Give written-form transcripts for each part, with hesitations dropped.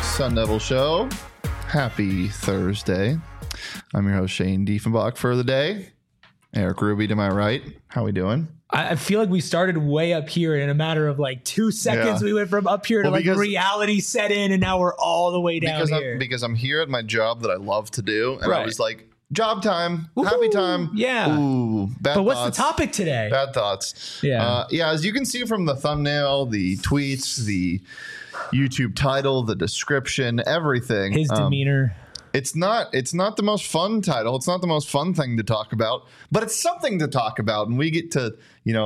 Sun Devil Show. Happy Thursday. I'm your host, Shane Diefenbach, for the day. Eric Ruby to my right. How we doing? I feel like we started way up here in a matter of like 2 seconds. Yeah. We went from up here to like reality set in, and now we're all the way down here. Because I'm here at my job that I love to do, and Right. I was like, job time, Woo-hoo, happy time. yeah. Ooh, bad But what's thoughts. the topic today? Bad thoughts. Yeah. As you can see from the thumbnail, the tweets, the YouTube title, the description, everything. His demeanor. It's not the most fun title. It's not the most fun thing to talk about, but it's something to talk about, and we get to,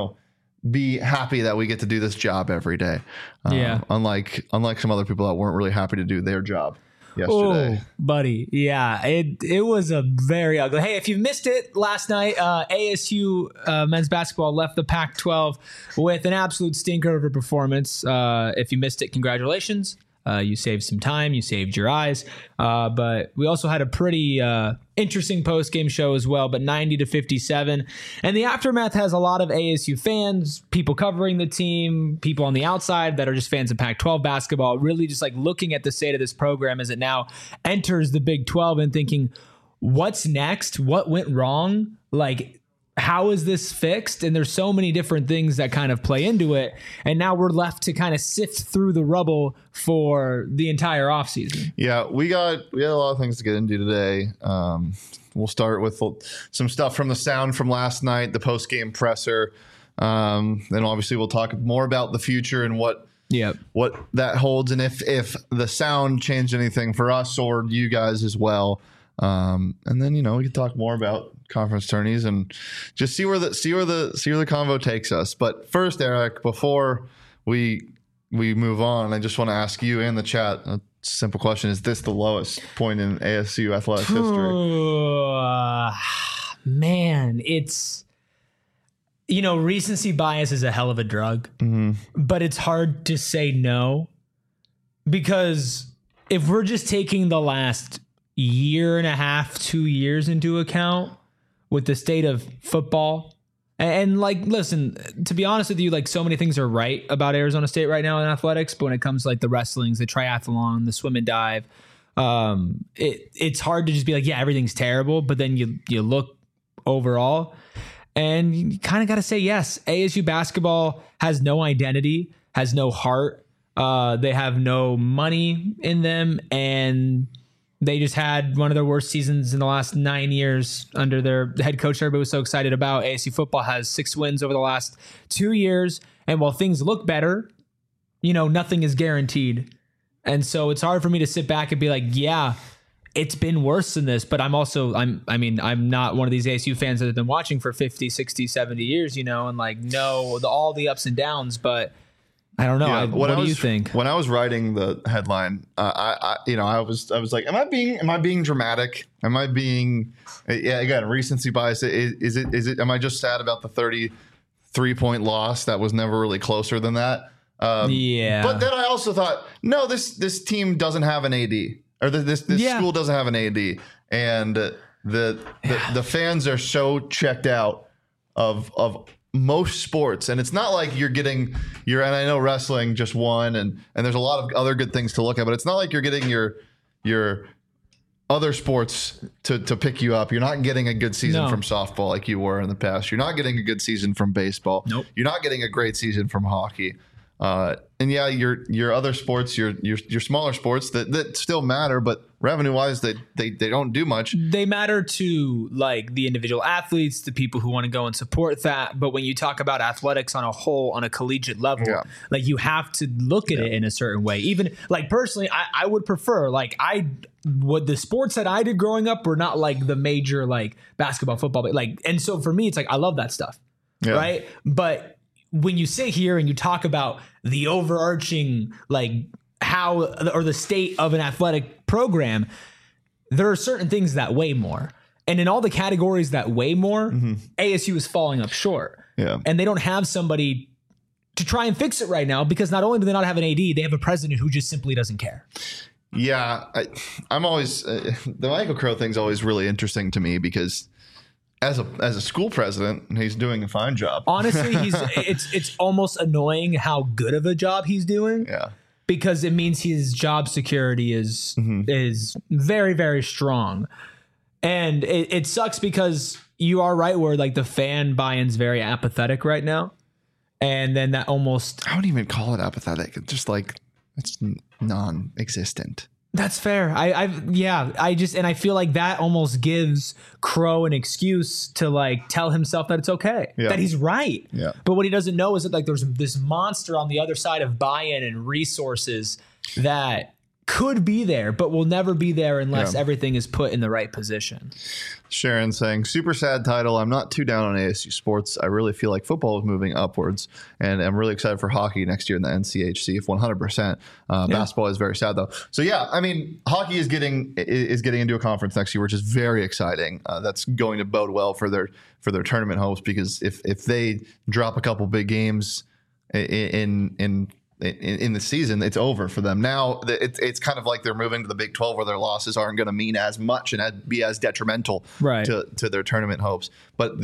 be happy that we get to do this job every day. Yeah. Unlike some other people that weren't really happy to do their job yesterday. Oh, buddy. Yeah. It was a very ugly. Hey, if you missed it last night, ASU men's basketball left the Pac-12 with an absolute stinker of a performance. If you missed it, congratulations. You saved some time. You saved your eyes. But we also had a pretty interesting post-game show as well, but 90-57. And the aftermath has a lot of ASU fans, people covering the team, people on the outside that are just fans of Pac-12 basketball, really just like looking at the state of this program as it now enters the Big 12 and thinking, what's next? What went wrong? Like, how is this fixed? And there's so many different things that kind of play into it. And now we're left to kind of sift through the rubble for the entire offseason. Yeah, we had a lot of things to get into today. We'll start with some stuff from the sound from last night, the post-game presser. Then obviously we'll talk more about the future and what that holds, and if the sound changed anything for us or you guys as well. And then we can talk more about conference tourneys and just see where the convo takes us. But first, Eric, before we move on, I just want to ask you in the chat a simple question: is this the lowest point in ASU athletics history? Man, it's recency bias is a hell of a drug, but it's hard to say no, because if we're just taking the last year and a half, 2 years into account with the state of football. And like, listen, to be honest with you, like so many things are right about Arizona State right now in athletics, but when it comes to like the wrestlings, the triathlon, the swim and dive, it's hard to just be like, yeah, everything's terrible. But then you look overall and you kind of got to say, yes, ASU basketball has no identity, has no heart. They have no money in them, and they just had one of their worst seasons in the last 9 years under their head coach everybody was so excited about. ASU football has 6 wins over the last 2 years. And while things look better, nothing is guaranteed. And so it's hard for me to sit back and be like, yeah, it's been worse than this. But I'm not one of these ASU fans that have been watching for 50, 60, 70 years, and like know all the ups and downs. But I don't know. Yeah, what do you think? When I was writing the headline, I was like, am I being dramatic? Am I being, again, recency bias? Is it? Am I just sad about the 33-point loss that was never really closer than that? Yeah. But then I also thought, no, this team doesn't have an AD, or this school doesn't have an AD, and the fans are so checked out of most sports, and it's not like and I know wrestling just won, and there's a lot of other good things to look at, but it's not like you're getting your other sports to pick you up. You're not getting a good season from softball like you were in the past. You're not getting a good season from baseball. Nope. You're not getting a great season from hockey. And yeah, your other sports, your smaller sports that still matter, but revenue wise, they don't do much. They matter to like the individual athletes, the people who want to go and support that. But when you talk about athletics on a whole, on a collegiate level, like you have to look at it in a certain way. Even like personally, I would prefer the sports that I did growing up were not like the major like basketball, football, but like, and so for me, it's like I love that stuff, right? But when you sit here and you talk about the overarching, like how, or the state of an athletic program, there are certain things that weigh more. And in all the categories that weigh more, ASU is falling up short. Yeah. And they don't have somebody to try and fix it right now, because not only do they not have an AD, they have a president who just simply doesn't care. Yeah. I'm always, the Michael Crow thing's always really interesting to me, because as a school president, he's doing a fine job. Honestly, it's almost annoying how good of a job he's doing. Yeah. because it means his job security is very, very strong. And it sucks because you are right where like the fan buy-in's very apathetic right now. And then that almost... I wouldn't even call it apathetic. It's just like, it's non-existent. That's fair. I feel like that almost gives Crow an excuse to like tell himself that it's okay, that he's right. Yeah. But what he doesn't know is that like there's this monster on the other side of buy-in and resources that could be there, but will never be there unless everything is put in the right position. Sharon saying, super sad title. I'm not too down on ASU sports. I really feel like football is moving upwards, and I'm really excited for hockey next year in the NCHC. If 100%, basketball is very sad though. So yeah, I mean, hockey is getting into a conference next year, which is very exciting. That's going to bode well for their tournament hopes, because if they drop a couple big games in the season, it's over for them. Now it's kind of like they're moving to the Big 12, where their losses aren't going to mean as much and be as detrimental to their tournament hopes. But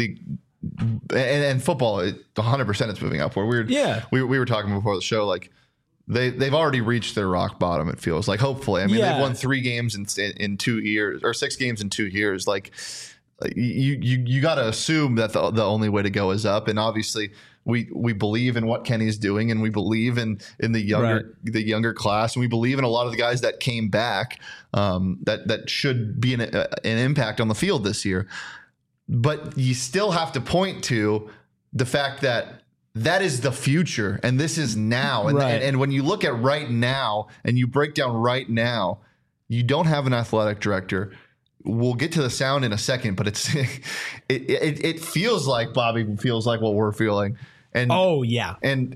and football, 100% it's moving up. Where we were talking before the show, like they've already reached their rock bottom. It feels like, hopefully. I mean, they've won 3 games in 2 years, or 6 games in 2 years. Like you got to assume that the only way to go is up, and obviously. We believe in what Kenny's doing, and we believe in the younger class, and we believe in a lot of the guys that came back that should be an impact on the field this year. But you still have to point to the fact that is the future, and this is now. And when you look at right now and you break down right now, you don't have an athletic director. We'll get to the sound in a second, but it feels like Bobby feels like what we're feeling. And and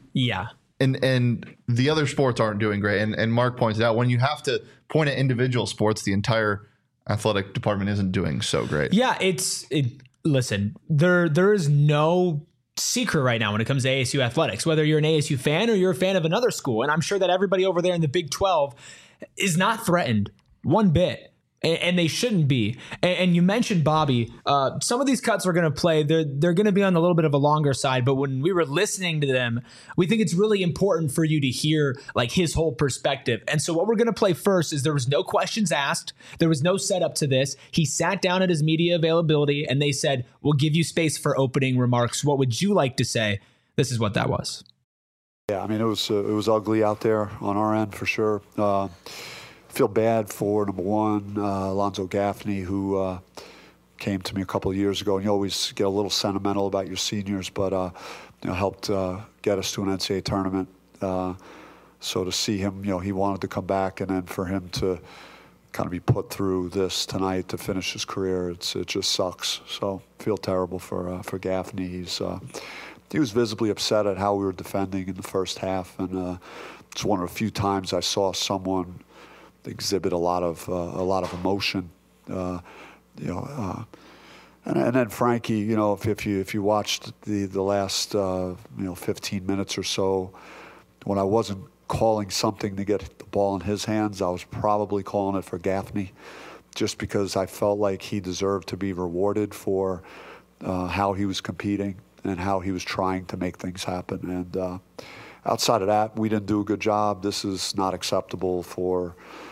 the other sports aren't doing great. And Mark pointed out, when you have to point at individual sports, the entire athletic department isn't doing so great. Yeah, listen, there is no secret right now when it comes to ASU athletics, whether you're an ASU fan or you're a fan of another school. And I'm sure that everybody over there in the Big 12 is not threatened one bit. And they shouldn't be. And you mentioned Bobby. Some of these cuts we're going to play, they're going to be on a little bit of a longer side. But when we were listening to them, we think it's really important for you to hear like his whole perspective. And so what we're going to play first is there was no questions asked. There was no setup to this. He sat down at his media availability and they said, we'll give you space for opening remarks. What would you like to say? This is what that was. Yeah, I mean, it was ugly out there on our end for sure. Feel bad for, number one, Alonzo Gaffney, who came to me a couple of years ago, and you always get a little sentimental about your seniors, but helped get us to an NCAA tournament. So to see him, he wanted to come back, and then for him to kind of be put through this tonight to finish his career, it just sucks. So feel terrible for Gaffney. He was visibly upset at how we were defending in the first half, and it's one of the few times I saw someone exhibit a lot of emotion, and then Frankie, if you watched the last 15 minutes or so, when I wasn't calling something to get the ball in his hands, I was probably calling it for Gaffney, just because I felt like he deserved to be rewarded for how he was competing and how he was trying to make things happen. And outside of that, we didn't do a good job. This is not acceptable for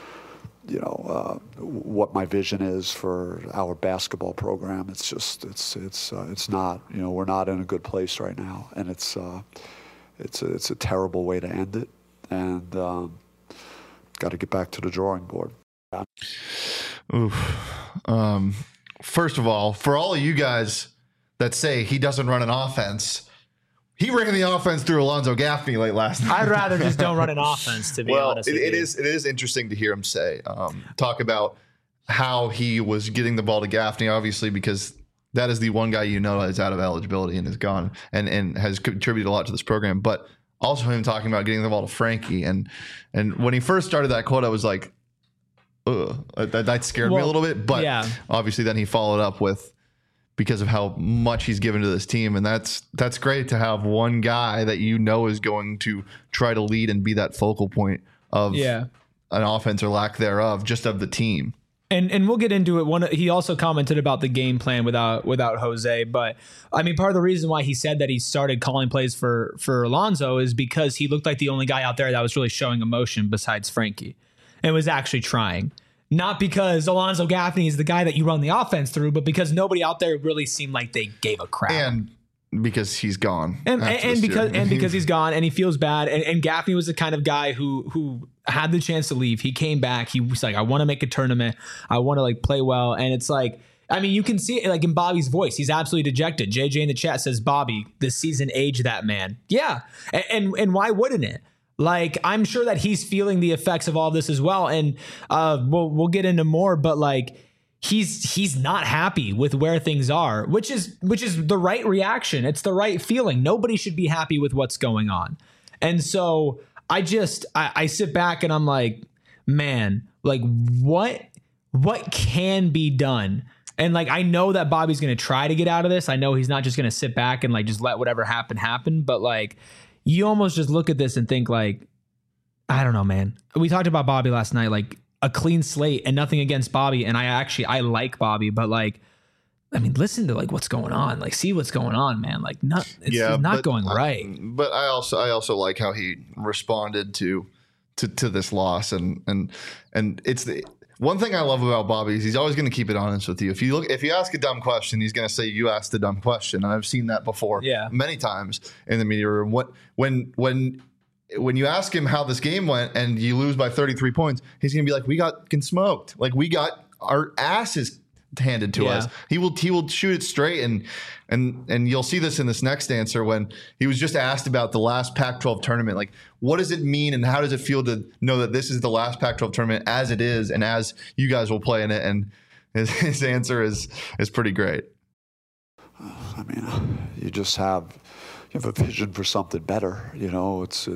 what my vision is for our basketball program. It's just, it's not, we're not in a good place right now, and it's a terrible way to end it, and got to get back to the drawing board. First of all, for all of you guys that say he doesn't run an offense, he ran the offense through Alonzo Gaffney late last night. I'd rather just don't run an offense, to be honest with you. It is interesting to hear him talk about how he was getting the ball to Gaffney, obviously, because that is the one guy is out of eligibility and is gone and has contributed a lot to this program. But also him talking about getting the ball to Frankie. And when he first started that quote, I was like, ugh, that scared me a little bit. But obviously then he followed up with, because of how much he's given to this team. And that's great to have one guy that is going to try to lead and be that focal point of an offense or lack thereof, just of the team. And we'll get into it. He also commented about the game plan without Jose, but I mean, part of the reason why he said that he started calling plays for Alonso is because he looked like the only guy out there that was really showing emotion besides Frankie and was actually trying. Not because Alonso Gaffney is the guy that you run the offense through, but because nobody out there really seemed like they gave a crap. And because he's gone. And because he's gone and he feels bad. And Gaffney was the kind of guy who had the chance to leave. He came back. He was like, I want to make a tournament. I want to like play well. And it's like, I mean, you can see it like in Bobby's voice. He's absolutely dejected. JJ in the chat says, Bobby, this season aged that man. Yeah. And why wouldn't it? Like, I'm sure that he's feeling the effects of all this as well. And we'll get into more, but like, he's not happy with where things are, which is the right reaction. It's the right feeling. Nobody should be happy with what's going on. And so I sit back and I'm like, man, like what can be done? And like, I know that Bobby's going to try to get out of this. I know he's not just going to sit back and like, just let whatever happen. But like, you almost just look at this and think like, I don't know, man. We talked about Bobby last night, like a clean slate, and nothing against Bobby. And I like Bobby, but like, I mean, listen to like what's going on, like see what's going on, man. Like it's not going right. But I also like how he responded to this loss. And it's the one thing I love about Bobby is he's always going to keep it honest with you. If you ask a dumb question, he's going to say you asked a dumb question. And I've seen that before many times in the media room. When you ask him how this game went and you lose by 33 points, he's going to be like, we got smoked. Like we got our asses handed to us. He will shoot it straight. And you'll see this in this next answer when he was just asked about the last Pac-12 tournament. Like, what does it mean and how does it feel to know that this is the last Pac-12 tournament as it is and as you guys will play in it? And his answer is pretty great. I mean, you have a vision for something better. You know, it's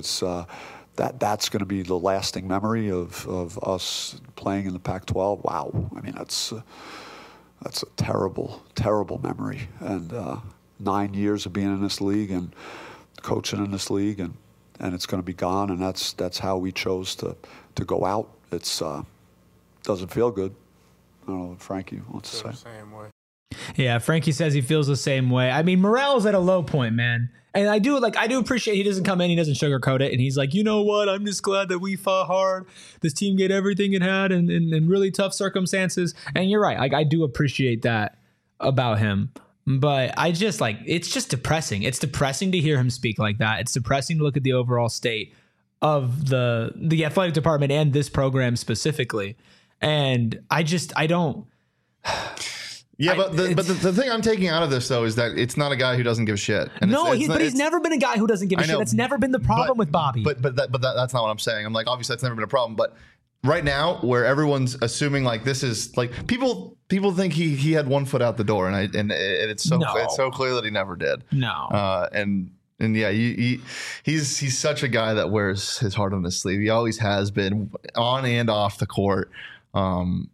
that's going to be the lasting memory of us playing in the Pac-12. Wow. I mean, that's a terrible, terrible memory. And 9 years of being in this league and coaching in this league, and it's going to be gone. And that's how we chose to go out. It's doesn't feel good. I don't know what Frankie wants to say. Same way. Yeah, Frankie says he feels the same way. I mean, morale's at a low point, man. And I do appreciate he doesn't come in, he doesn't sugarcoat it. And he's like, you know what? I'm just glad that we fought hard. This team get everything it had in really tough circumstances. And you're right. Like, I do appreciate that about him. But I just it's just depressing. It's depressing to hear him speak like that. It's depressing to look at the overall state of the athletic department and this program specifically. And I don't. Yeah, but the thing I'm taking out of this, though, is that it's not a guy who doesn't give a shit. And he's never been a guy who doesn't give a shit. That's never been the problem with Bobby. But that's not what I'm saying. I'm like, obviously, that's never been a problem. But right now, where everyone's assuming like this is like people think he had one foot out the door, and it's so clear that he never did. No. And yeah, he's such a guy that wears his heart on his sleeve. He always has been on and off the court. And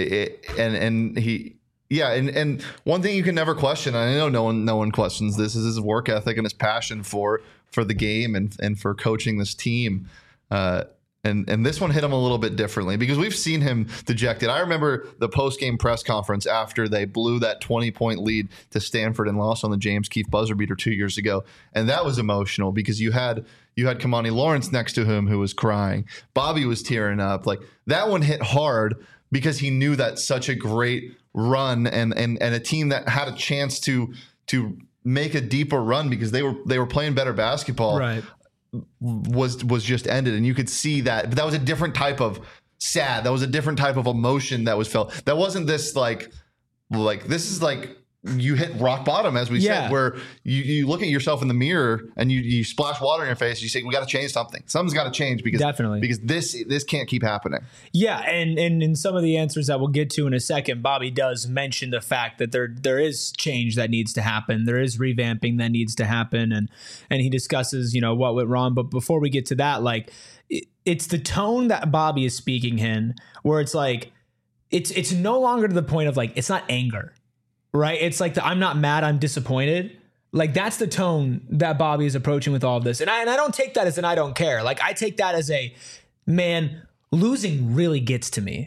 one thing you can never question, and I know no one questions this, is his work ethic and his passion for the game and for coaching this team. And this one hit him a little bit differently because we've seen him dejected. I remember the post-game press conference after they blew that 20-point lead to Stanford and lost on the James Keefe buzzer beater 2 years ago. And that was emotional because you had Kamani Lawrence next to him who was crying. Bobby was tearing up. Like, that one hit hard because he knew that such a great run and a team that had a chance to make a deeper run because they were playing better basketball. Right. Was just ended, and you could see that. But that was a different type of sad. That was a different type of emotion that was felt. That wasn't this like this is like you hit rock bottom, as we said, where you look at yourself in the mirror and you splash water in your face. You say, we got to change something. Something's got to change because this can't keep happening. Yeah, and in some of the answers that we'll get to in a second, Bobby does mention the fact that there is change that needs to happen. There is revamping that needs to happen, and he discusses what went wrong. But before we get to that, like it's the tone that Bobby is speaking in, where it's like it's no longer to the point of like it's not anger. Right. It's like I'm not mad. I'm disappointed. Like, that's the tone that Bobby is approaching with all of this. And I don't take that as an I don't care. Like, I take that as a, man, losing really gets to me.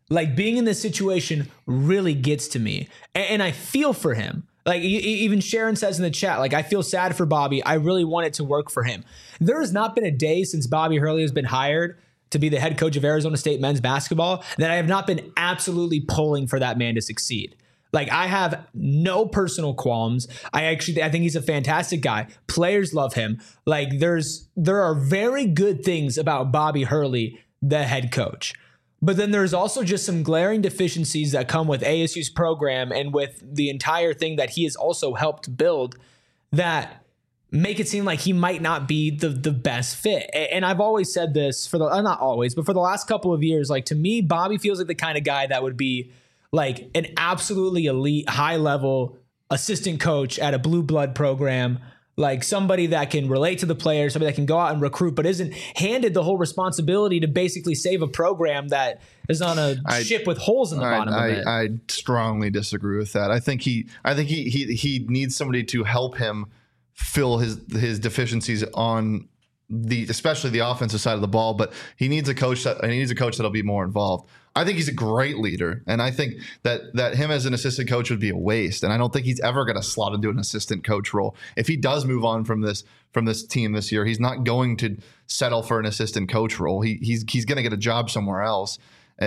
Like, being in this situation really gets to me. And I feel for him. Like, even Sharon says in the chat, like, I feel sad for Bobby. I really want it to work for him. There has not been a day since Bobby Hurley has been hired to be the head coach of Arizona State men's basketball that I have not been absolutely pulling for that man to succeed. Like, I have no personal qualms. I think he's a fantastic guy. Players love him. Like, there are very good things about Bobby Hurley, the head coach. But then there's also just some glaring deficiencies that come with ASU's program and with the entire thing that he has also helped build that make it seem like he might not be the best fit. And I've always said this not always, but for the last couple of years, like, to me, Bobby feels like the kind of guy that would be like an absolutely elite, high level assistant coach at a blue blood program, like somebody that can relate to the players, somebody that can go out and recruit, but isn't handed the whole responsibility to basically save a program that is on a ship with holes in the bottom of it. I strongly disagree with that. I think he needs somebody to help him fill his deficiencies on especially the offensive side of the ball, but he needs a coach that'll be more involved. I think he's a great leader, and I think that him as an assistant coach would be a waste. And I don't think he's ever going to slot into an assistant coach role. If he does move on from this team this year, he's not going to settle for an assistant coach role. He's going to get a job somewhere else.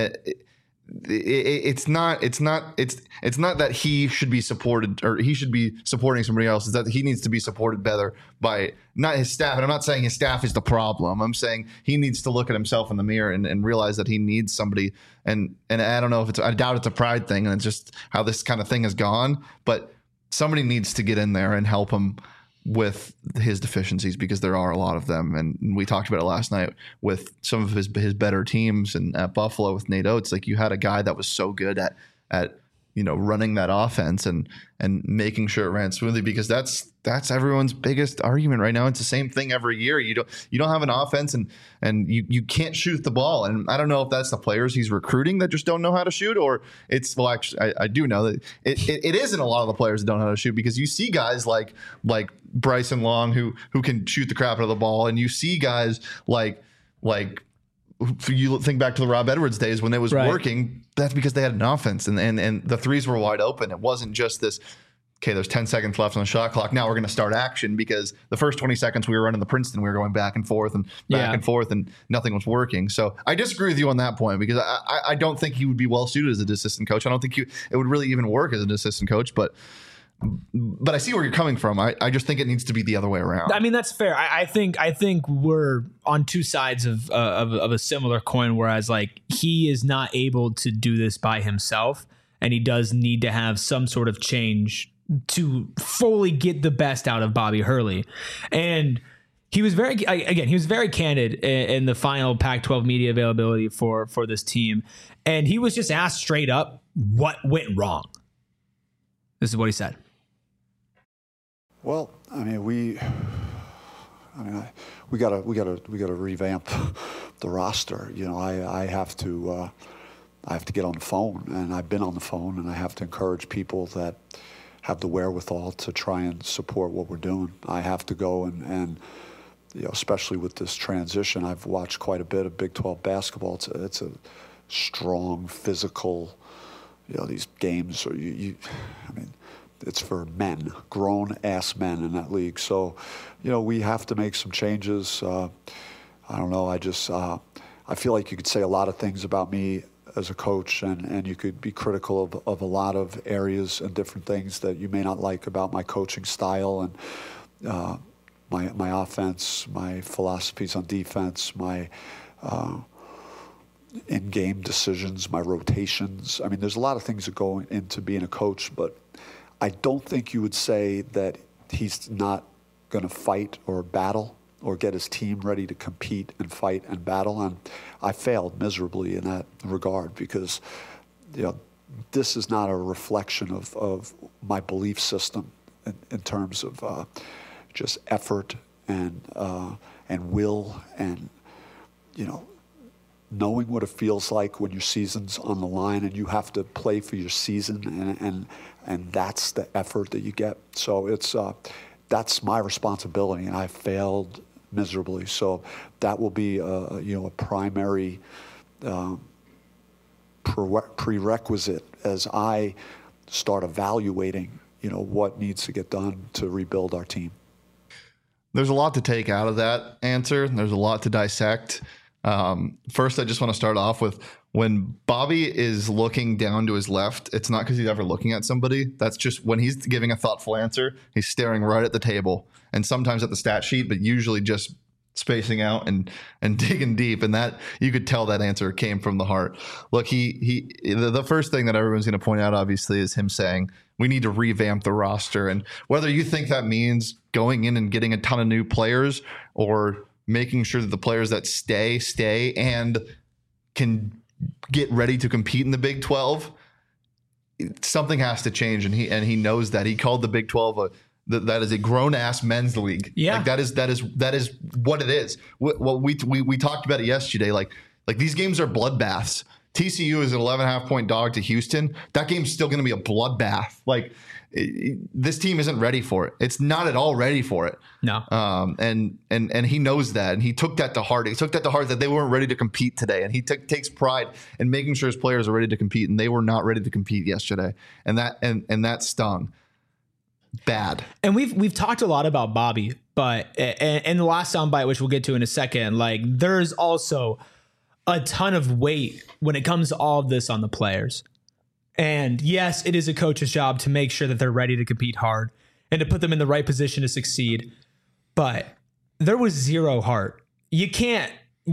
It's not that he should be supported or he should be supporting somebody else. It's that he needs to be supported better by not his staff. And I'm not saying his staff is the problem. I'm saying he needs to look at himself in the mirror and realize that he needs somebody. And I don't know if I doubt it's a pride thing and it's just how this kind of thing has gone, but somebody needs to get in there and help him with his deficiencies, because there are a lot of them. And we talked about it last night with some of his better teams, and at Buffalo with Nate Oates, like, you had a guy that was so good at running that offense and making sure it ran smoothly, because that's everyone's biggest argument right now. It's the same thing every year. You don't have an offense and you can't shoot the ball. And I don't know if that's the players he's recruiting that just don't know how to shoot, or actually I do know that it isn't a lot of the players that don't know how to shoot, because you see guys like Bryson Long who can shoot the crap out of the ball, and you see guys like you think back to the Rob Edwards days when it was working. That's because they had an offense and the threes were wide open. It wasn't just this, okay, there's 10 seconds left on the shot clock, now we're going to start action, because the first 20 seconds we were running the Princeton, we were going back and forth and nothing was working. So I disagree with you on that point, because I don't think he would be well suited as an assistant coach. I don't think it would really even work as an assistant coach, but I see where you're coming from. I just think it needs to be the other way around. I mean, that's fair. I think we're on two sides of a similar coin, whereas, like, he is not able to do this by himself, and he does need to have some sort of change to fully get the best out of Bobby Hurley. And he was very candid in the final Pac-12 media availability for this team, and he was just asked straight up what went wrong. This is what he said. Well, I mean, we gotta revamp the roster. I have to get on the phone, and I've been on the phone, and I have to encourage people that have the wherewithal to try and support what we're doing. I have to go and especially with this transition, I've watched quite a bit of Big 12 basketball. It's a strong, physical. These games are it's for men, grown-ass men in that league. So, we have to make some changes. I don't know. I feel like you could say a lot of things about me as a coach, and you could be critical of a lot of areas and different things that you may not like about my coaching style and my offense, my philosophies on defense, my in-game decisions, my rotations. I mean, there's a lot of things that go into being a coach, but I don't think you would say that he's not going to fight or battle or get his team ready to compete and fight and battle. And I failed miserably in that regard, because this is not a reflection of my belief system in terms of just effort and will and knowing what it feels like when your season's on the line and you have to play for your season, and that's the effort that you get. So that's my responsibility, and I failed miserably. So that will be a primary prerequisite as I start evaluating, what needs to get done to rebuild our team. There's a lot to take out of that answer. There's a lot to dissect. First, I just want to start off with when Bobby is looking down to his left, it's not because he's ever looking at somebody. That's just when he's giving a thoughtful answer, he's staring right at the table and sometimes at the stat sheet, but usually just spacing out and digging deep. And that you could tell that answer came from the heart. Look, the first thing that everyone's going to point out, obviously, is him saying we need to revamp the roster. And whether you think that means going in and getting a ton of new players or making sure that the players that stay and can get ready to compete in the Big 12, something has to change. And he knows that. He called the Big 12 that is a grown ass men's league. Yeah. Like that is what it is. We talked about it yesterday. Like these games are bloodbaths. TCU is an 11.5 point dog to Houston. That game's still going to be a bloodbath. This team isn't ready for it. It's not at all ready for it. No. And he knows that, and he took that to heart. He took that to heart that they weren't ready to compete today, and he takes pride in making sure his players are ready to compete, and they were not ready to compete yesterday, and that stung bad. And we've talked a lot about Bobby, but in the last soundbite, which we'll get to in a second, there's also a ton of weight when it comes to all of this on the players. And yes, it is a coach's job to make sure that they're ready to compete hard and to put them in the right position to succeed. But there was zero heart. You can't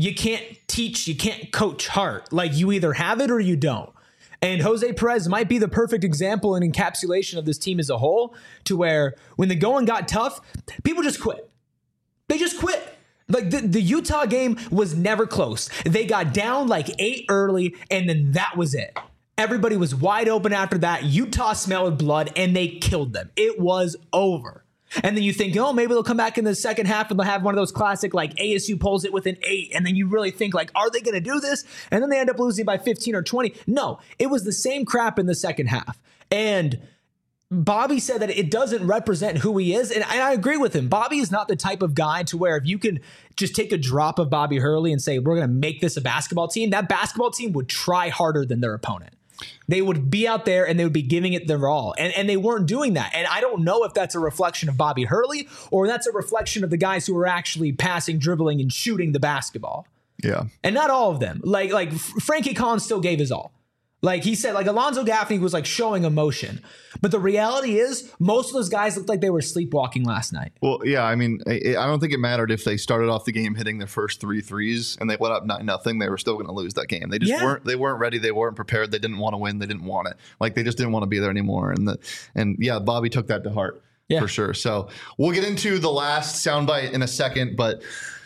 teach, you can't coach heart. You either have it or you don't. And Jose Perez might be the perfect example and encapsulation of this team as a whole, to where when the going got tough, people just quit. They just quit. The Utah game was never close. They got down 8 early, and then that was it. Everybody was wide open after that. Utah smelled blood, and they killed them. It was over. And then you think, maybe they'll come back in the second half and they'll have one of those classic, ASU pulls it with an 8. And then you really think, are they going to do this? And then they end up losing by 15 or 20. No, it was the same crap in the second half. And Bobby said that it doesn't represent who he is. And I agree with him. Bobby is not the type of guy to where if you can just take a drop of Bobby Hurley and say, we're going to make this a basketball team, that basketball team would try harder than their opponent. They would be out there and they would be giving it their all. And they weren't doing that. And I don't know if that's a reflection of Bobby Hurley or that's a reflection of the guys who are actually passing, dribbling, and shooting the basketball. Yeah. And not all of them. Frankie Collins still gave his all. He said, Alonzo Gaffney was showing emotion. But the reality is most of those guys looked like they were sleepwalking last night. Well, yeah, I mean, I don't think it mattered if they started off the game hitting their first 3 threes and they went up 9-0. They were still going to lose that game. They just weren't ready. They weren't prepared. They didn't want to win. They didn't want it. They just didn't want to be there anymore. And Bobby took that to heart for sure. So we'll get into the last soundbite in a second, but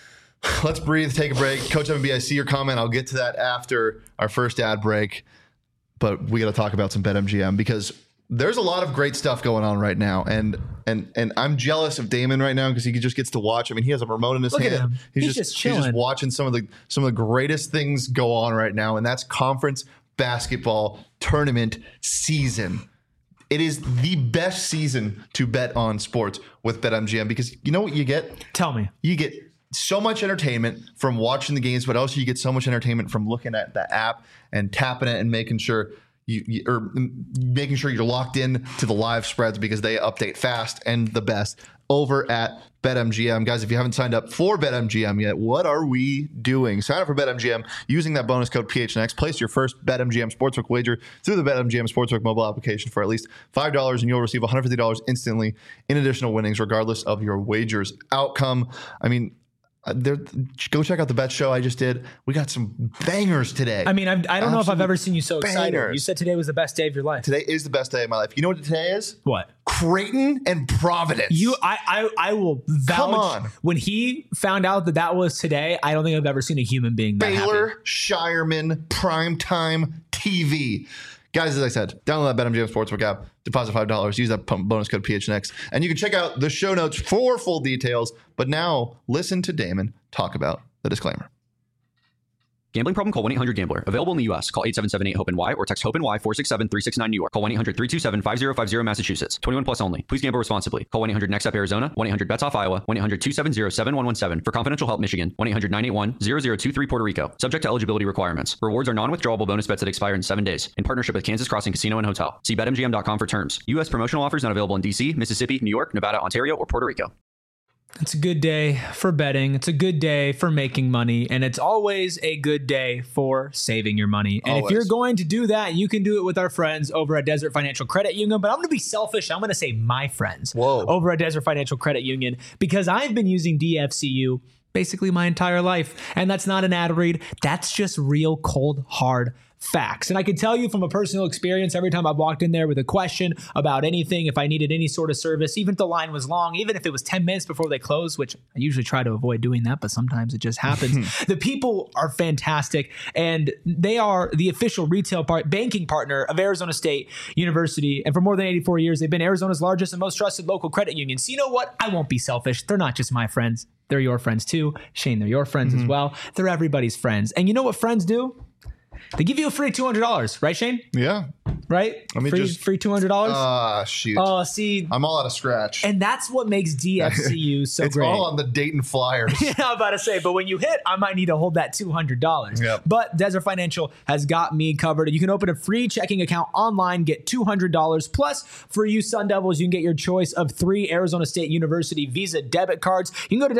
let's breathe, take a break. Coach MB, I see your comment. I'll get to that after our first ad break. But we got to talk about some BetMGM because there's a lot of great stuff going on right now. And I'm jealous of Damon right now because he just gets to watch. I mean, he has a remote in his hand. He's just chilling. He's just watching some of the greatest things go on right now. And that's conference basketball tournament season. It is the best season to bet on sports with BetMGM because you know what you get? Tell me. You get so much entertainment from watching the games, but also you get so much entertainment from looking at the app and tapping it and making sure you're locked in to the live spreads because they update fast and the best over at BetMGM. Guys, if you haven't signed up for BetMGM yet, what are we doing? Sign up for BetMGM using that bonus code PHNX. Place your first BetMGM Sportsbook wager through the BetMGM Sportsbook mobile application for at least $5, and you'll receive $150 instantly in additional winnings, regardless of your wager's outcome. I mean, go check out the bet show I just did. We got some bangers today. I mean, I don't know if I've ever seen you so excited. Bangers. You said today was the best day of your life. Today is the best day of my life. You know what today is? What? Creighton and Providence. I will vouch. Come on. When he found out that was today, I don't think I've ever seen a human being that Baylor, happy. Shireman, primetime TV. Guys, as I said, download that BetMGM Sportsbook app, deposit $5, use that bonus code PHNX, and you can check out the show notes for full details. But now, listen to Damon talk about the disclaimer. Gambling problem? Call 1-800-GAMBLER. Available in the U.S. Call 877-8-HOPE-NY or text HOPE-NY 467-369 New York. Call 1-800-327-5050 Massachusetts. 21 plus only. Please gamble responsibly. Call 1-800-NEXT-UP Arizona, 1-800-BETS-OFF Iowa, 1-800-270-7117 for confidential help Michigan, 1-800-981-0023 Puerto Rico. Subject to eligibility requirements. Rewards are non-withdrawable bonus bets that expire in 7 days. In partnership with Kansas Crossing Casino and Hotel. See BetMGM.com for terms. U.S. promotional offers not available in D.C., Mississippi, New York, Nevada, Ontario, or Puerto Rico. It's a good day for betting. It's a good day for making money. And it's always a good day for saving your money. And Always. if you're going to do that, you can do it with our friends over at Desert Financial Credit Union. But I'm going to be selfish. I'm going to say my friends over at Desert Financial Credit Union, because I've been using DFCU basically my entire life. And that's not an ad read. That's just real cold, hard facts. And I can tell you from a personal experience, every time I've walked in there with a question about anything, if I needed any sort of service, even if the line was long, even if it was 10 minutes before they close, which I usually try to avoid doing that, but sometimes it just happens. The people are fantastic, and they are the official retail banking partner of Arizona State University. And for more than 84 years, they've been Arizona's largest and most trusted local credit union. So you know what? I won't be selfish. They're not just my friends. They're your friends too. Shane, they're your friends as well. They're everybody's friends. And you know what friends do? They give you a free $200, right, Shane? Yeah. Right? Let me free $200? Shoot. Oh, see. I'm all out of scratch. And that's what makes DFCU so it's great. all on the Dayton Flyers. Yeah, I'm about to say, but when you hit, I might need to hold that $200. Yep. But Desert Financial has got me covered. You can open a free checking account online, get $200. Plus, for you Sun Devils, you can get your choice of 3 Arizona State University Visa debit cards. You can go to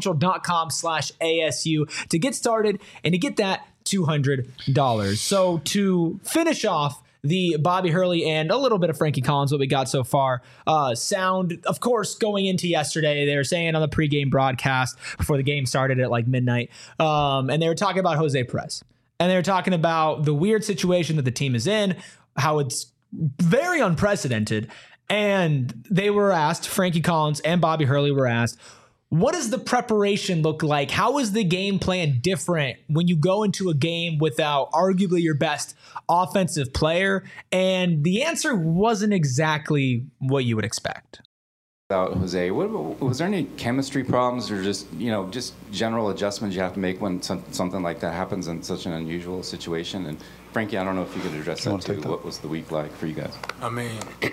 desertfinancial.com/ASU to get started and to get that $200. So to finish off the Bobby Hurley and a little bit of Frankie Collins, what we got so far, sound, of course, going into yesterday, they were saying on the pregame broadcast before the game started at like midnight, and they were talking about Jose Perez. And they were talking about the weird situation that the team is in, how it's very unprecedented. And they were asked, Frankie Collins and Bobby Hurley were asked, what does the preparation look like? How is the game plan different when you go into a game without arguably your best offensive player? And the answer wasn't exactly what you would expect. About Jose, was there any chemistry problems or just general adjustments you have to make when something like that happens in such an unusual situation? And Frankie, I don't know if you could address that too. What was the week like for you guys? I mean,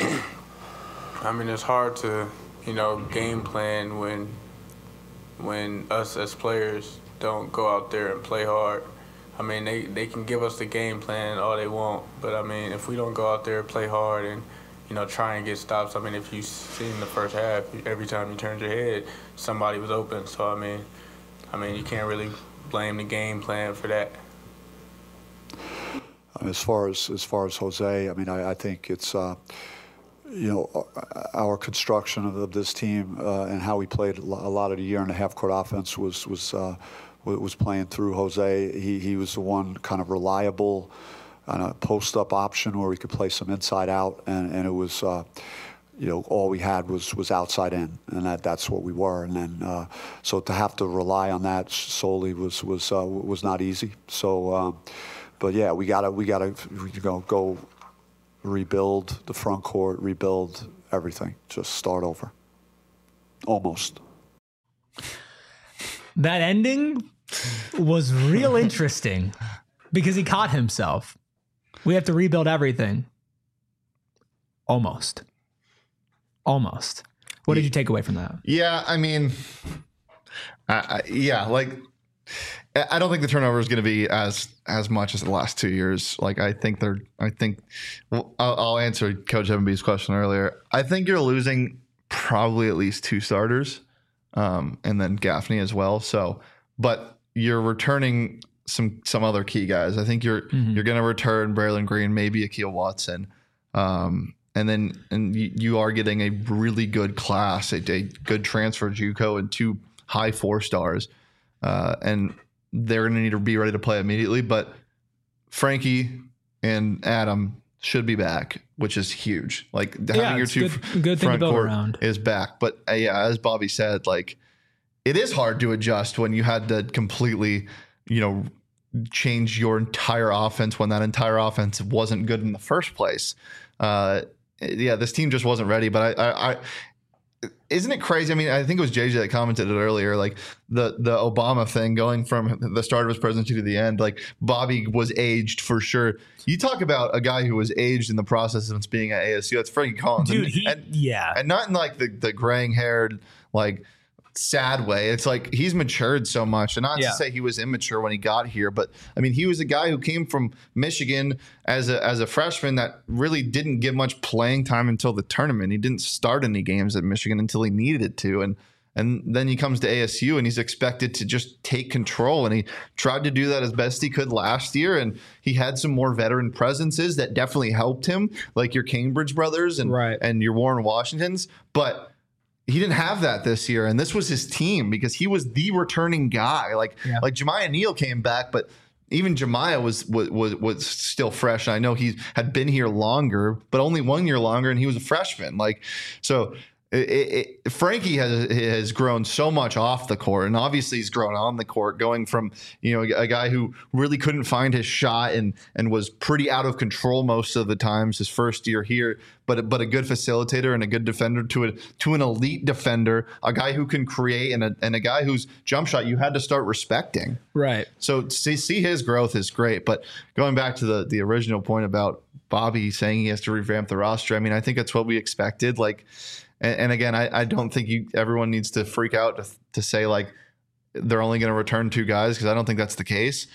it's hard to, game plan when us as players don't go out there and play hard. I mean, they can give us the game plan all they want, but if we don't go out there and play hard and try and get stops. If you've seen the first half, every time you turned your head, somebody was open. So you can't really blame the game plan for that. As far as Jose, I think it's our construction of this team and how we played a lot of the year and a half court offense was playing through Jose. He was the one kind of reliable on a post-up option where we could play some inside out, and it was all we had was outside in, and that's what we were. And then so to have to rely on that solely was not easy. So, but yeah, we gotta go rebuild the front court, rebuild everything, just start over. Almost. That ending was real interesting because he caught himself. We have to rebuild everything. Almost. What did you take away from that? Yeah, I don't think the turnover is going to be as much as the last 2 years. I'll answer Coach Evan B's question earlier. I think you're losing probably at least 2 starters, and then Gaffney as well. So, but you're returning some other key guys. I think you're going to return Braylon Green, maybe Akil Watson, and you are getting a really good class, a good transfer JUCO and 2 high 4-stars, and they're going to need to be ready to play immediately. But Frankie and Adam should be back, which is huge. Having your 2 good thing to build around is back. But as Bobby said, it is hard to adjust when you had to completely, change your entire offense when that entire offense wasn't good in the first place. This team just wasn't ready. But isn't it crazy? I mean, I think it was JJ that commented it earlier, like the Obama thing going from the start of his presidency to the end. Like Bobby was aged for sure. You talk about a guy who was aged in the process of being at ASU. That's Frankie Collins, dude. And not in like the graying haired like sad way. It's like he's matured so much, and not to say he was immature when he got here, but I mean, he was a guy who came from Michigan as a freshman that really didn't get much playing time until the tournament. He didn't start any games at Michigan until he needed it to, and then he comes to ASU and he's expected to just take control, and he tried to do that as best he could last year, and he had some more veteran presences that definitely helped him, like your Cambridge brothers and your Warren Washingtons, but he didn't have that this year, and this was his team because he was the returning guy. Like Jemiah Neal came back, but even Jemiah was still fresh. And I know he had been here longer, but only 1 year longer, and he was a freshman. Like so. Frankie has grown so much off the court, and obviously he's grown on the court, going from a guy who really couldn't find his shot and was pretty out of control most of the times his first year here, but a good facilitator and a good defender to an elite defender, a guy who can create and a guy whose jump shot you had to start respecting. Right. So to see his growth is great. But going back to the original point about Bobby saying he has to revamp the roster, I mean, I think that's what we expected. Like. And again, I don't think everyone needs to freak out to say like they're only going to return 2 guys, because I don't think that's the case.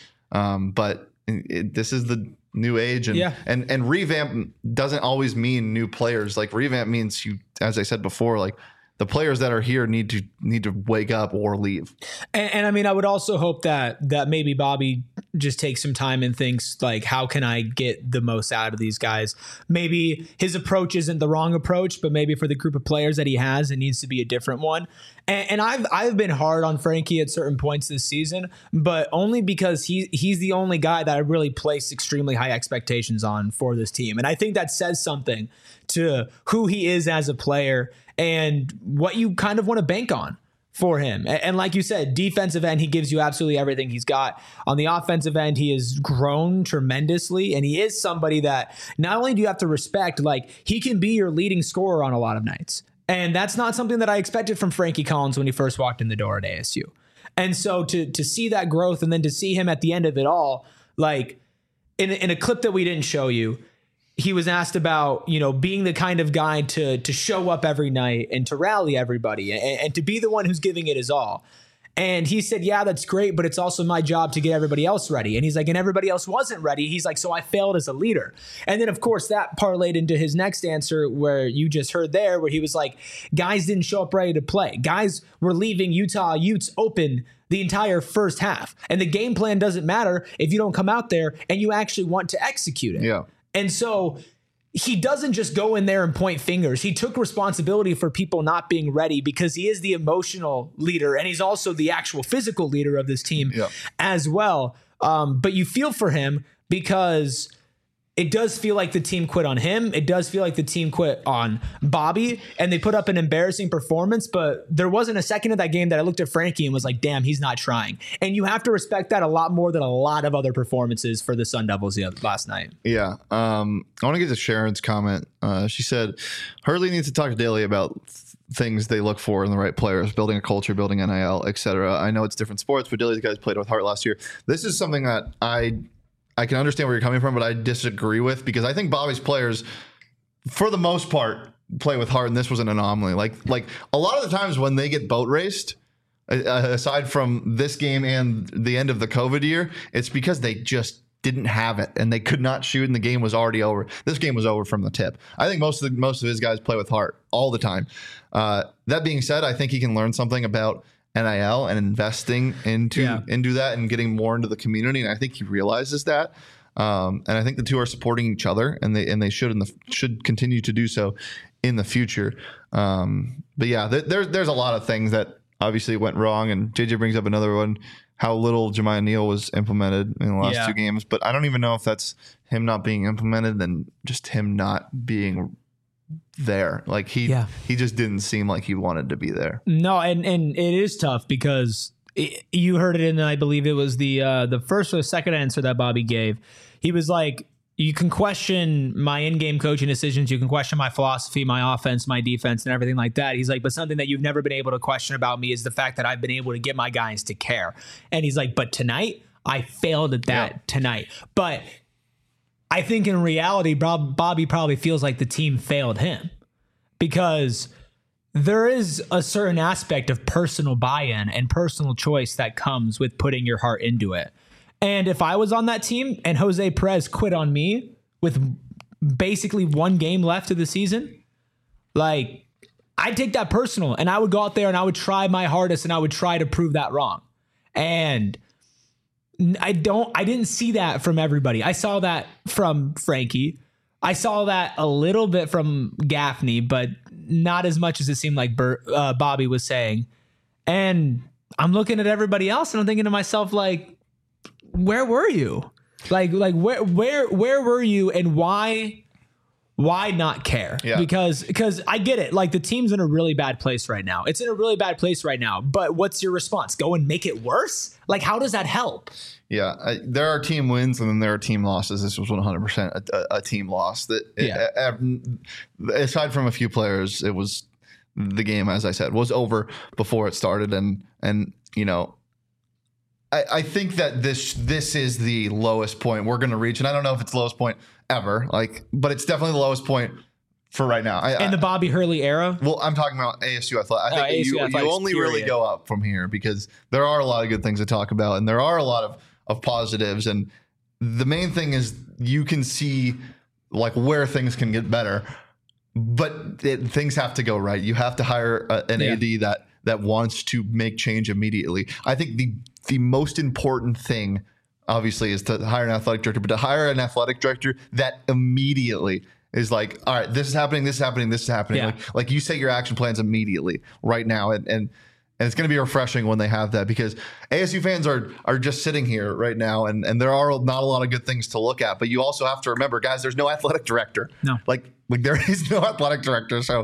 But this is the new age, and revamp doesn't always mean new players. Like revamp means as I said before, like the players that are here need to wake up or leave. And I mean, I would also hope that maybe Bobby just takes some time and thinks like, how can I get the most out of these guys? Maybe his approach isn't the wrong approach, but maybe for the group of players that he has, it needs to be a different one. And I've been hard on Frankie at certain points this season, but only because he's the only guy that I really place extremely high expectations on for this team. And I think that says something to who he is as a player and what you kind of want to bank on for him. And like you said, defensive end, he gives you absolutely everything he's got. On the offensive end, he has grown tremendously, and he is somebody that not only do you have to respect, like he can be your leading scorer on a lot of nights. And that's not something that I expected from Frankie Collins when he first walked in the door at ASU. And so to see that growth and then to see him at the end of it all, like in a clip that we didn't show you, he was asked about, being the kind of guy to show up every night and to rally everybody and to be the one who's giving it his all. And he said, yeah, that's great, but it's also my job to get everybody else ready. And he's like, and everybody else wasn't ready. He's like, so I failed as a leader. And then, of course, that parlayed into his next answer where you just heard there, where he was like, guys didn't show up ready to play. Guys were leaving Utah Utes open the entire first half. And the game plan doesn't matter if you don't come out there and you actually want to execute it. Yeah. And so he doesn't just go in there and point fingers. He took responsibility for people not being ready because he is the emotional leader and he's also the actual physical leader of this team as well. But you feel for him because it does feel like the team quit on him. It does feel like the team quit on Bobby, and they put up an embarrassing performance, but there wasn't a second of that game that I looked at Frankie and was like, damn, he's not trying. And you have to respect that a lot more than a lot of other performances for the Sun Devils last night. Yeah. I want to get to Sharon's comment. She said, Hurley needs to talk to Daly about things they look for in the right players, building a culture, building NIL, etc. I know it's different sports, but Daly's guys played with heart last year. This is something that I can understand where you're coming from, but I disagree with, because I think Bobby's players, for the most part, play with heart, and this was an anomaly. Like a lot of the times when they get boat raced, aside from this game and the end of the COVID year, it's because they just didn't have it and they could not shoot, and the game was already over. This game was over from the tip. I think most of his guys play with heart all the time. That being said, I think he can learn something about NIL and investing into that and getting more into the community, and I think he realizes that. And I think the two are supporting each other, and they should continue to do so in the future. But yeah, there's a lot of things that obviously went wrong, and JJ brings up another one, how little Jemiah Neal was implemented in the last 2 games. But I don't even know if that's him not being implemented and just him not being there. Like he just didn't seem like he wanted to be there. No, and it is tough because you heard it in, I believe it was the first or second answer that Bobby gave. He was like, you can question my in-game coaching decisions. You can question my philosophy, my offense, my defense, and everything like that. He's like, but something that you've never been able to question about me is the fact that I've been able to get my guys to care. And he's like, but tonight, I failed at that tonight. But I think in reality, Bobby probably feels like the team failed him, because there is a certain aspect of personal buy-in and personal choice that comes with putting your heart into it. And if I was on that team and Jose Perez quit on me with basically 1 game left of the season, like, I'd take that personal, and I would go out there and I would try my hardest and I would try to prove that wrong. And I didn't see that from everybody. I saw that from Frankie. I saw that a little bit from Gaffney, but not as much as it seemed like Bobby was saying. And I'm looking at everybody else and I'm thinking to myself, like, where were you? Like where were you, and why not care? Yeah. Because I get it. Like, the team's in a really bad place right now. It's in a really bad place right now. But what's your response? Go and make it worse? Like, how does that help? Yeah, there are team wins and then there are team losses. This was 100% a team loss. Aside from a few players, it was the game, as I said, was over before it started. And you know, I think that this is the lowest point we're going to reach, and I don't know if it's the lowest point ever, but it's definitely the lowest point for right now. In the Bobby Hurley era? Well, I'm talking about ASU Athletics. I think you only really go up from here, because there are a lot of good things to talk about, and there are a lot of positives. And the main thing is you can see like where things can get better, but things have to go right. You have to hire an AD that wants to make change immediately. I think the most important thing, obviously, is to hire an athletic director, but to hire an athletic director that immediately is like, all right, this is happening, this is happening, this is happening. Yeah. Like you set your action plans immediately right now. And it's going to be refreshing when they have that, because ASU fans are just sitting here right now, and there are not a lot of good things to look at. But you also have to remember, guys, there's no athletic director. No. Like there is no athletic director, so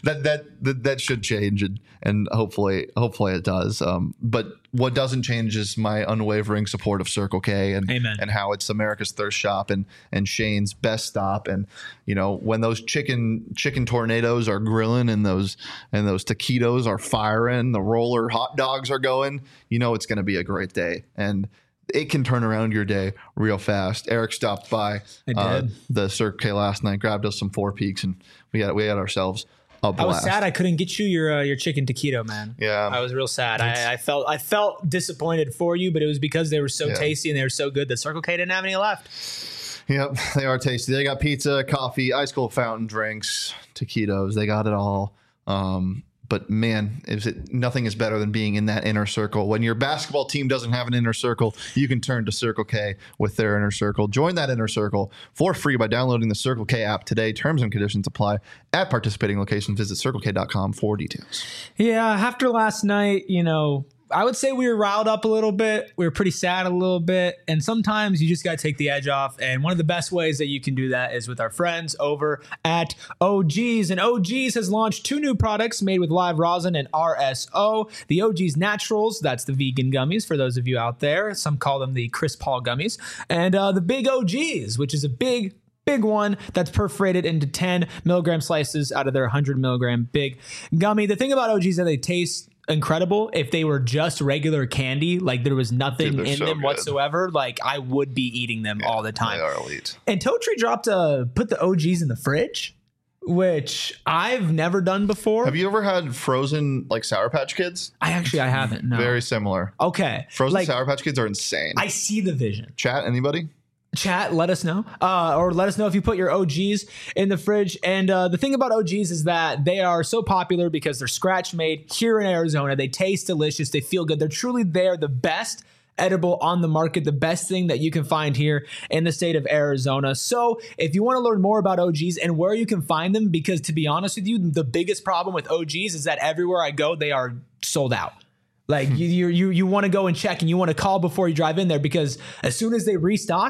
that should change, and hopefully it does. But what doesn't change is my unwavering support of Circle K and how it's America's thirst shop and Shane's best stop. And you know, when those chicken tornadoes are grilling and those taquitos are firing, the roller hot dogs are going, you know it's going to be a great day. And it can turn around your day real fast. Eric stopped by the Circle K last night, grabbed us some Four Peaks, and we had ourselves a blast. I was sad I couldn't get you your chicken taquito, man. Yeah, I was real sad. I felt disappointed for you, but it was because they were so tasty and they were so good that Circle K didn't have any left. Yep, they are tasty. They got pizza, coffee, ice cold fountain drinks, taquitos. They got it all. But man, nothing is better than being in that inner circle. When your basketball team doesn't have an inner circle, you can turn to Circle K with their inner circle. Join that inner circle for free by downloading the Circle K app today. Terms and conditions apply at participating locations. Visit CircleK.com for details. Yeah, after last night, you know, I would say we were riled up a little bit. We were pretty sad a little bit. And sometimes you just got to take the edge off. And one of the best ways that you can do that is with our friends over at OG's. And OG's has launched 2 new products made with live rosin and RSO. The OG's Naturals, that's the vegan gummies for those of you out there. Some call them the Chris Paul gummies. And the Big OG's, which is a big one that's perforated into 10 milligram slices out of their 100 milligram big gummy. The thing about OG's is that they taste incredible. If they were just regular candy, like there was nothing in them whatsoever, like I would be eating them all the time. They are elite. And Totri put the OGs in the fridge, which I've never done before. Have you ever had frozen like Sour Patch Kids? I haven't. No. Very similar. Okay. Frozen Sour Patch Kids are insane. I see the vision. Chat, anybody? Chat, let us know. Or let us know if you put your OGs in the fridge. And the thing about OGs is that they are so popular because they're scratch made here in Arizona. They taste delicious. They feel good. They're truly the best edible on the market, the best thing that you can find here in the state of Arizona. So if you want to learn more about OGs and where you can find them, because to be honest with you, the biggest problem with OGs is that everywhere I go, they are sold out. Like you want to go and check and you want to call before you drive in there, because as soon as they restock,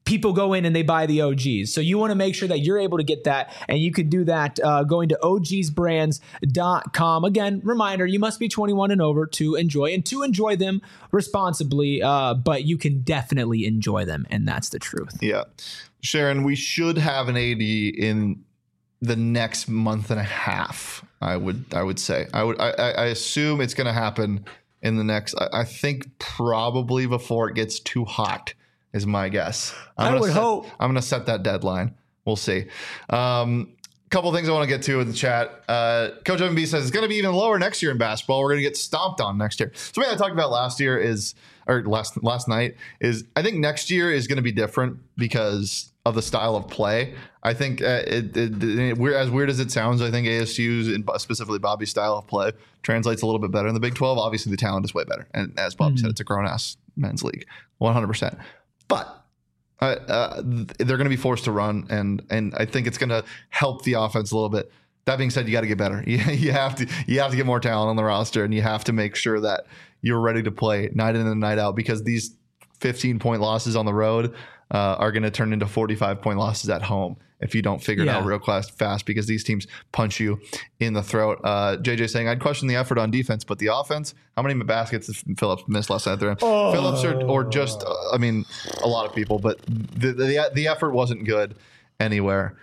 people go in and they buy the OGs. So you want to make sure that you're able to get that, and you can do that going to ogsbrands.com. Again, reminder, you must be 21 and over to enjoy them responsibly, but you can definitely enjoy them, and that's the truth. Yeah. Sharon, we should have an AD in the next month and a half. I would say. I assume it's going to happen in the next. I think probably before it gets too hot is my guess. I would hope. I'm going to set that deadline. We'll see. Couple things I want to get to in the chat. Coach MB says it's going to be even lower next year in basketball. We're going to get stomped on next year. Something I talked about last night is I think next year is going to be different because of the style of play. I think as weird as it sounds, I think ASU's and specifically Bobby's style of play translates a little bit better in the Big 12. Obviously, the talent is way better, and as Bobby said, it's a grown-ass men's league, 100%. But they're going to be forced to run, and I think it's going to help the offense a little bit. That being said, you got to get better. You have to get more talent on the roster, and you have to make sure that you're ready to play night in and night out, because these 15-point losses on the road are going to turn into 45-point losses at home if you don't figure it out real fast, because these teams punch you in the throat. JJ saying, I'd question the effort on defense, but the offense, how many baskets did Phillips miss last night there? Phillips or just, a lot of people, but the effort wasn't good anywhere.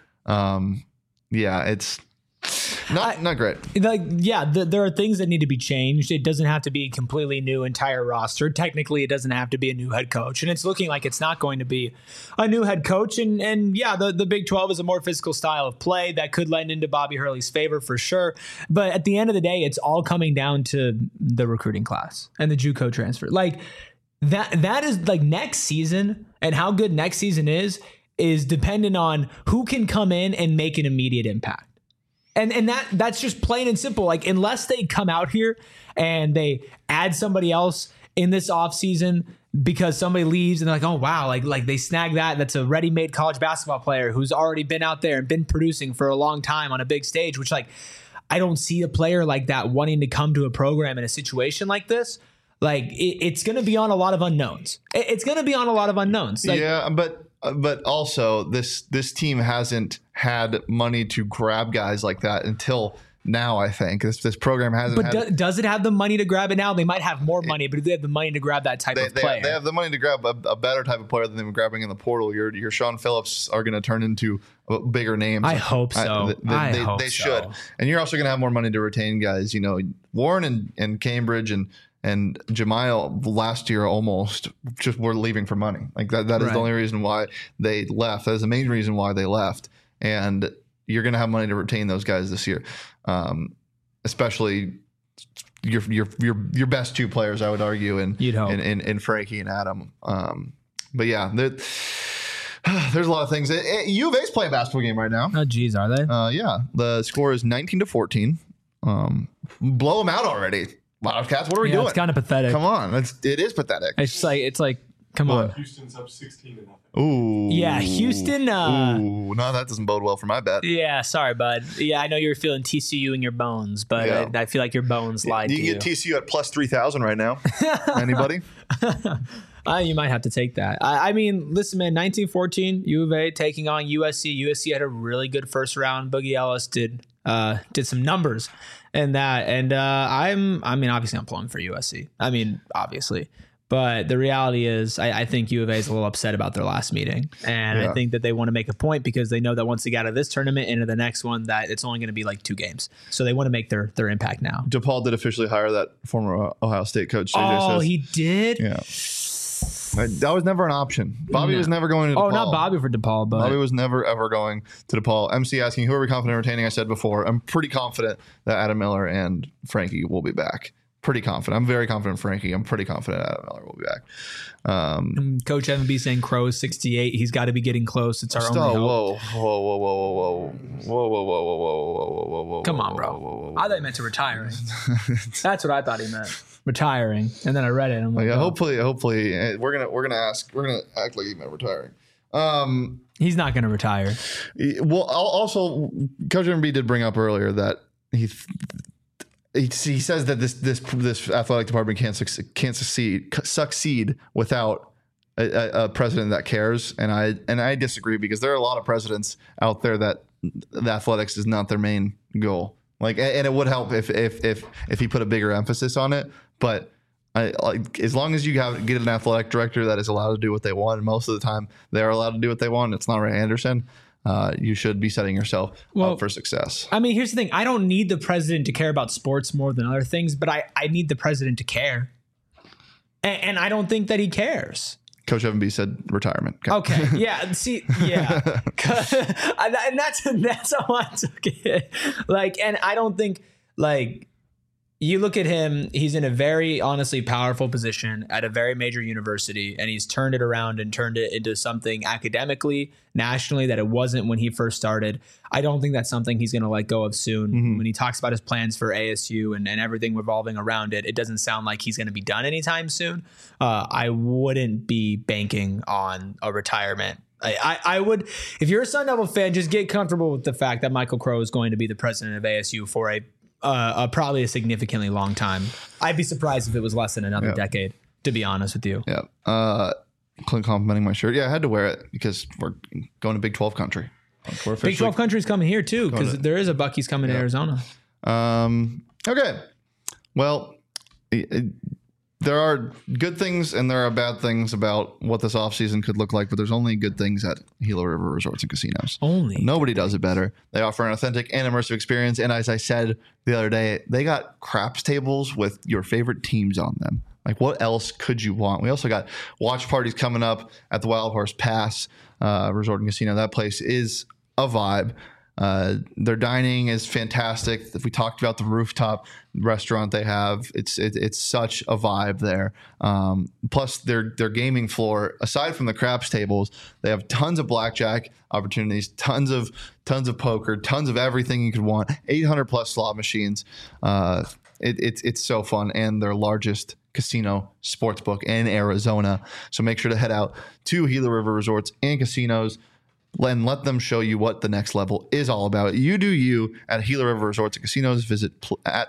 It's not great. There are things that need to be changed. It doesn't have to be a completely new entire roster. Technically, it doesn't have to be a new head coach, and it's looking like it's not going to be a new head coach. And the Big 12 is a more physical style of play that could lend into Bobby Hurley's favor for sure. But at the end of the day, it's all coming down to the recruiting class and the JUCO transfer. Like that is like next season, and how good next season is dependent on who can come in and make an immediate impact. And that's just plain and simple. Like, unless they come out here and they add somebody else in this offseason because somebody leaves and they're like, oh, wow, like they snag that's a ready-made college basketball player who's already been out there and been producing for a long time on a big stage, which, like, I don't see a player like that wanting to come to a program in a situation like this. Like, it's going to be on a lot of unknowns. It's going to be on a lot of unknowns. Like, yeah, but also this team hasn't had money to grab guys like that until now. I think this program hasn't. But does it have the money to grab it now? They might have more money, but do they have the money to grab that type of player? They have the money to grab a better type of player than they were grabbing in the portal. Your Sean Phillips are going to turn into bigger names. I hope so. They should. And you're also going to have more money to retain guys. You know, Warren and Cambridge and Jemiah last year almost just were leaving for money. Like that is the only reason why they left. That is the main reason why they left. And you're going to have money to retain those guys this year, especially your best two players, I would argue, in Frankie and Adam. But yeah, there's a lot of things. U of A's playing a basketball game right now. Oh, geez, are they? Yeah, the score is 19-14. Blow them out already. Wildcats, what are we doing? It's kind of pathetic. Come on, it is pathetic. It's like, come on. Houston's up 16-0. Ooh. Yeah, Houston. Ooh, no, that doesn't bode well for my bet. Yeah, sorry, bud. Yeah, I know you're feeling TCU in your bones, but I feel like your bones lied to you. You can get TCU at plus 3,000 right now. Anybody? You might have to take that. I mean, listen, man, 19-14, U of A taking on USC. USC had a really good first round. Boogie Ellis did some numbers in that. And obviously I'm pulling for USC. I mean, obviously. But the reality is I think U of A is a little upset about their last meeting. And I think that they want to make a point because they know that once they get out of this tournament into the next one, that it's only going to be like 2 games. So they want to make their impact now. DePaul did officially hire that former Ohio State coach. JJ says. He did? Yeah. That was never an option. Bobby was never going to DePaul. Oh, not Bobby for DePaul, but Bobby was never, ever going to DePaul. MC asking, who are we confident in retaining? I said before, I'm pretty confident that Adam Miller and Frankie will be back. Pretty confident. I'm very confident in Frankie. I'm pretty confident Adam Miller will be back. Coach MB saying Crow is 68. He's got to be getting close. It's our only hope. Whoa. Come on, bro. I thought he meant to retiring. That's what I thought he meant. Retiring. And then I read it and I'm like, hopefully we're gonna act like he meant retiring. He's not gonna retire. Well, also Coach MB did bring up earlier that he says that this athletic department can't succeed without a president that cares, and I disagree, because there are a lot of presidents out there that the athletics is not their main goal. Like, and it would help if he put a bigger emphasis on it. But as long as you get an athletic director that is allowed to do what they want, and most of the time they are allowed to do what they want, it's not Ray Anderson. You should be setting yourself up for success. I mean, here's the thing: I don't need the president to care about sports more than other things, but I need the president to care, and I don't think that he cares. Coach Evan B said retirement. Okay. Yeah. See, yeah. And that's how I took it. Like, and I don't think, like, you look at him, he's in a very honestly powerful position at a very major university, and he's turned it around and turned it into something academically, nationally, that it wasn't when he first started. I don't think that's something he's going to let go of soon. When he talks about his plans for ASU and everything revolving around it, it doesn't sound like he's going to be done anytime soon. I wouldn't be banking on a retirement. I would, if you're a Sun Devil fan, just get comfortable with the fact that Michael Crow is going to be the president of ASU for probably a significantly long time. I'd be surprised if it was less than another decade, to be honest with you. Yeah. Clint complimenting my shirt. Yeah, I had to wear it because we're going to Big 12 country. Big 12 country is coming here too, because there is a Buc-ee's coming to Arizona. Okay. Well, there are good things and there are bad things about what this offseason could look like, but there's only good things at Gila River Resorts and Casinos. Only. Nobody does it better. They offer an authentic and immersive experience. And as I said the other day, they got craps tables with your favorite teams on them. Like, what else could you want? We also got watch parties coming up at the Wild Horse Pass Resort and Casino. That place is a vibe. Their dining is fantastic. If we talked about the rooftop restaurant they have, it's such a vibe there. Plus their gaming floor, aside from the craps tables, they have tons of blackjack opportunities, tons of poker, tons of everything you could want. 800 plus slot machines. It's so fun, and their largest casino sportsbook in Arizona. So make sure to head out to Gila River Resorts and Casinos. And let them show you what the next level is all about. You do you at Gila River Resorts and Casinos. Visit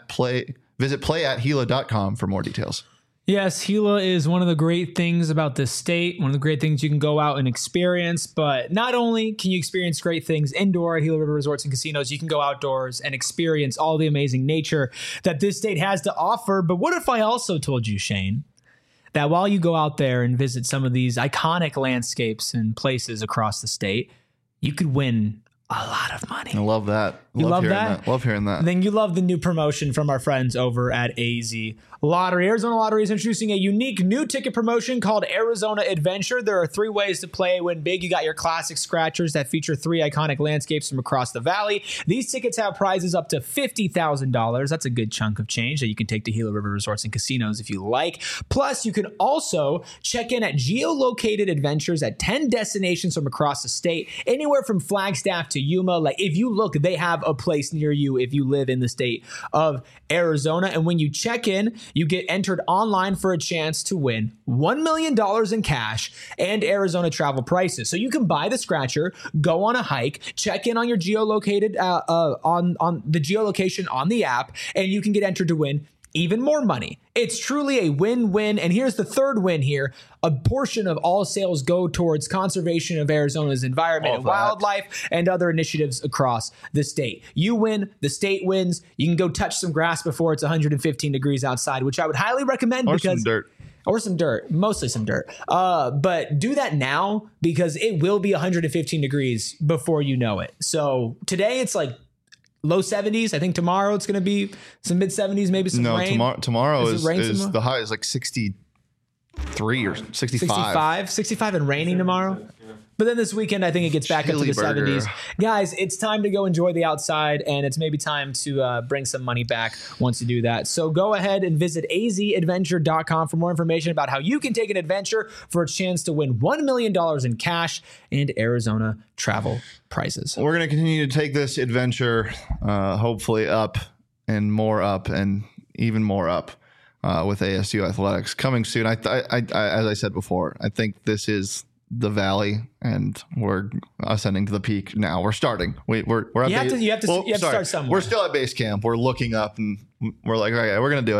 playatgila.com for more details. Yes, Gila is one of the great things about this state, one of the great things you can go out and experience. But not only can you experience great things indoor at Gila River Resorts and Casinos, you can go outdoors and experience all the amazing nature that this state has to offer. But what if I also told you, Shane, that while you go out there and visit some of these iconic landscapes and places across the state, you could win a lot of money. I love that. You love that? Love hearing that. Then you love the new promotion from our friends over at AZ Lottery. Arizona Lottery is introducing a unique new ticket promotion called Arizona Adventure. There are 3 ways to play win big. You got your classic scratchers that feature 3 iconic landscapes from across the valley. These tickets have prizes up to $50,000. That's a good chunk of change that you can take to Gila River Resorts and Casinos if you like. Plus, you can also check in at geolocated adventures at 10 destinations from across the state, anywhere from Flagstaff to Yuma. Like, if you look, they have a place near you if you live in the state of Arizona. And when you check in, you get entered online for a chance to win $1 million in cash and Arizona travel prices. So you can buy the scratcher, go on a hike, check in on your geolocated on the geolocation on the app, and you can get entered to win even more money. It's truly a win-win. And here's the third win here. A portion of all sales go towards conservation of Arizona's environment and wildlife and other initiatives across the state. You win, the state wins. You can go touch some grass before it's 115 degrees outside, which I would highly recommend. Or some dirt. Or some dirt, mostly some dirt. But do that now, because it will be 115 degrees before you know it. So today it's like low 70s. I think tomorrow it's going to be some mid 70s, maybe some rain. Tomorrow is the high is like 63 or 65. 65 and raining tomorrow. But then this weekend, I think it gets back up to the 70s. Guys, it's time to go enjoy the outside, and it's maybe time to bring some money back once you do that. So go ahead and visit azadventure.com for more information about how you can take an adventure for a chance to win $1 million in cash and Arizona travel prizes. We're going to continue to take this adventure hopefully up and even more up with ASU Athletics coming soon. I as I said before, I think this is the valley, and we're ascending to the peak now. We're starting. We're at you have to start somewhere. We're still at base camp. We're looking up, and we're like, all right, we're gonna do it.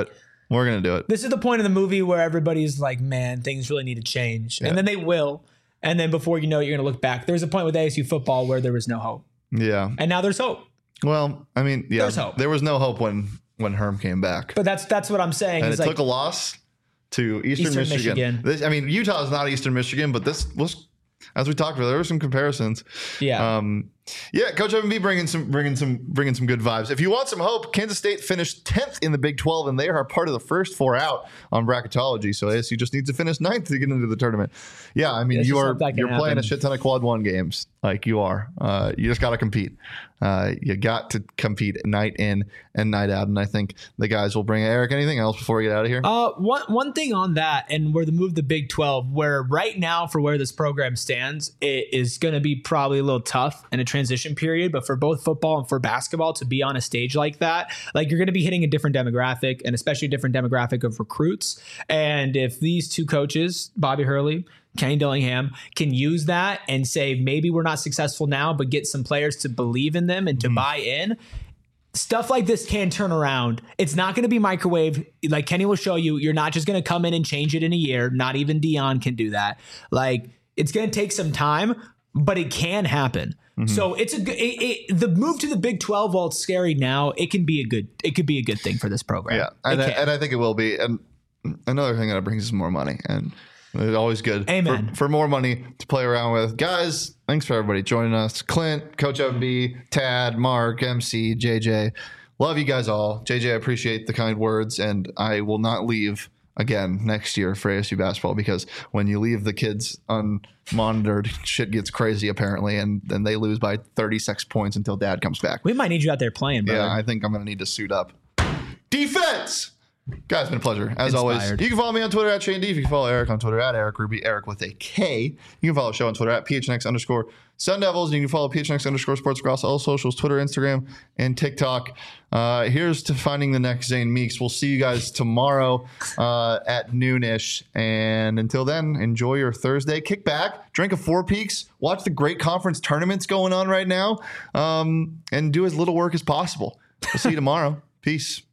We're going to do it. This is the point of the movie where everybody's like, man, things really need to change. Yeah. And then they will. And then before you know it, you're going to look back. There's a point with ASU football where there was no hope. Yeah. And now there's hope. Well, I mean, yeah, There's hope. there was no hope when Herm came back. But that's what I'm saying. And is it like, took a loss to Eastern Michigan. Utah is not Eastern Michigan, but this was, as we talked about, there were some comparisons. yeah. Coach Evan B bringing some good vibes. If you want some hope, Kansas State finished 10th in the Big 12, and they are part of the first 4 out on bracketology. So ASU just needs to finish 9th to get into the tournament. Yeah, I mean, you're playing a shit ton of quad 1 games, like you are. You just got to compete. You got to compete night in and night out, and I think the guys will bring it. Eric, anything else before we get out of here? One thing on that, and where the move the Big 12, where right now for where this program stands, it is going to be probably a little tough in a transition period, but for both football and for basketball to be on a stage like that, like you're going to be hitting a different demographic, and especially a different demographic of recruits. And if these two coaches, Bobby Hurley, Kenny Dillingham, can use that and say, maybe we're not successful now, but get some players to believe in them and to buy in, stuff like this can turn around. It's not going to be microwave. Like Kenny will show you, you're not just going to come in and change it in a year. Not even Dion can do that. Like, it's going to take some time, but it can happen. So it's the move to the Big 12, while it's scary now, it could be a good thing for this program. Yeah, and I think it will be. And another thing that brings us more money, and it's always good for more money to play around with. Guys, thanks for everybody joining us. Clint, Coach MB, Tad, Mark, MC, JJ. Love you guys all. JJ, I appreciate the kind words, and I will not leave again next year for ASU basketball, because when you leave the kids unmonitored, shit gets crazy apparently, and then they lose by 36 points until Dad comes back. We might need you out there playing, brother. Yeah, I think I'm going to need to suit up. Defense! Guys, it's been a pleasure. As always, you can follow me on Twitter at Shane D. If you can follow Eric on Twitter at Eric Ruby, Eric with a K. You can follow the show on Twitter at PHNX_Sun Devils. And you can follow PHNX_sports across all socials, Twitter, Instagram, and TikTok. Here's to finding the next Zane Meeks. We'll see you guys tomorrow at noonish. And until then, enjoy your Thursday. Kick back, drink a Four Peaks, watch the great conference tournaments going on right now, and do as little work as possible. We'll see you tomorrow. Peace.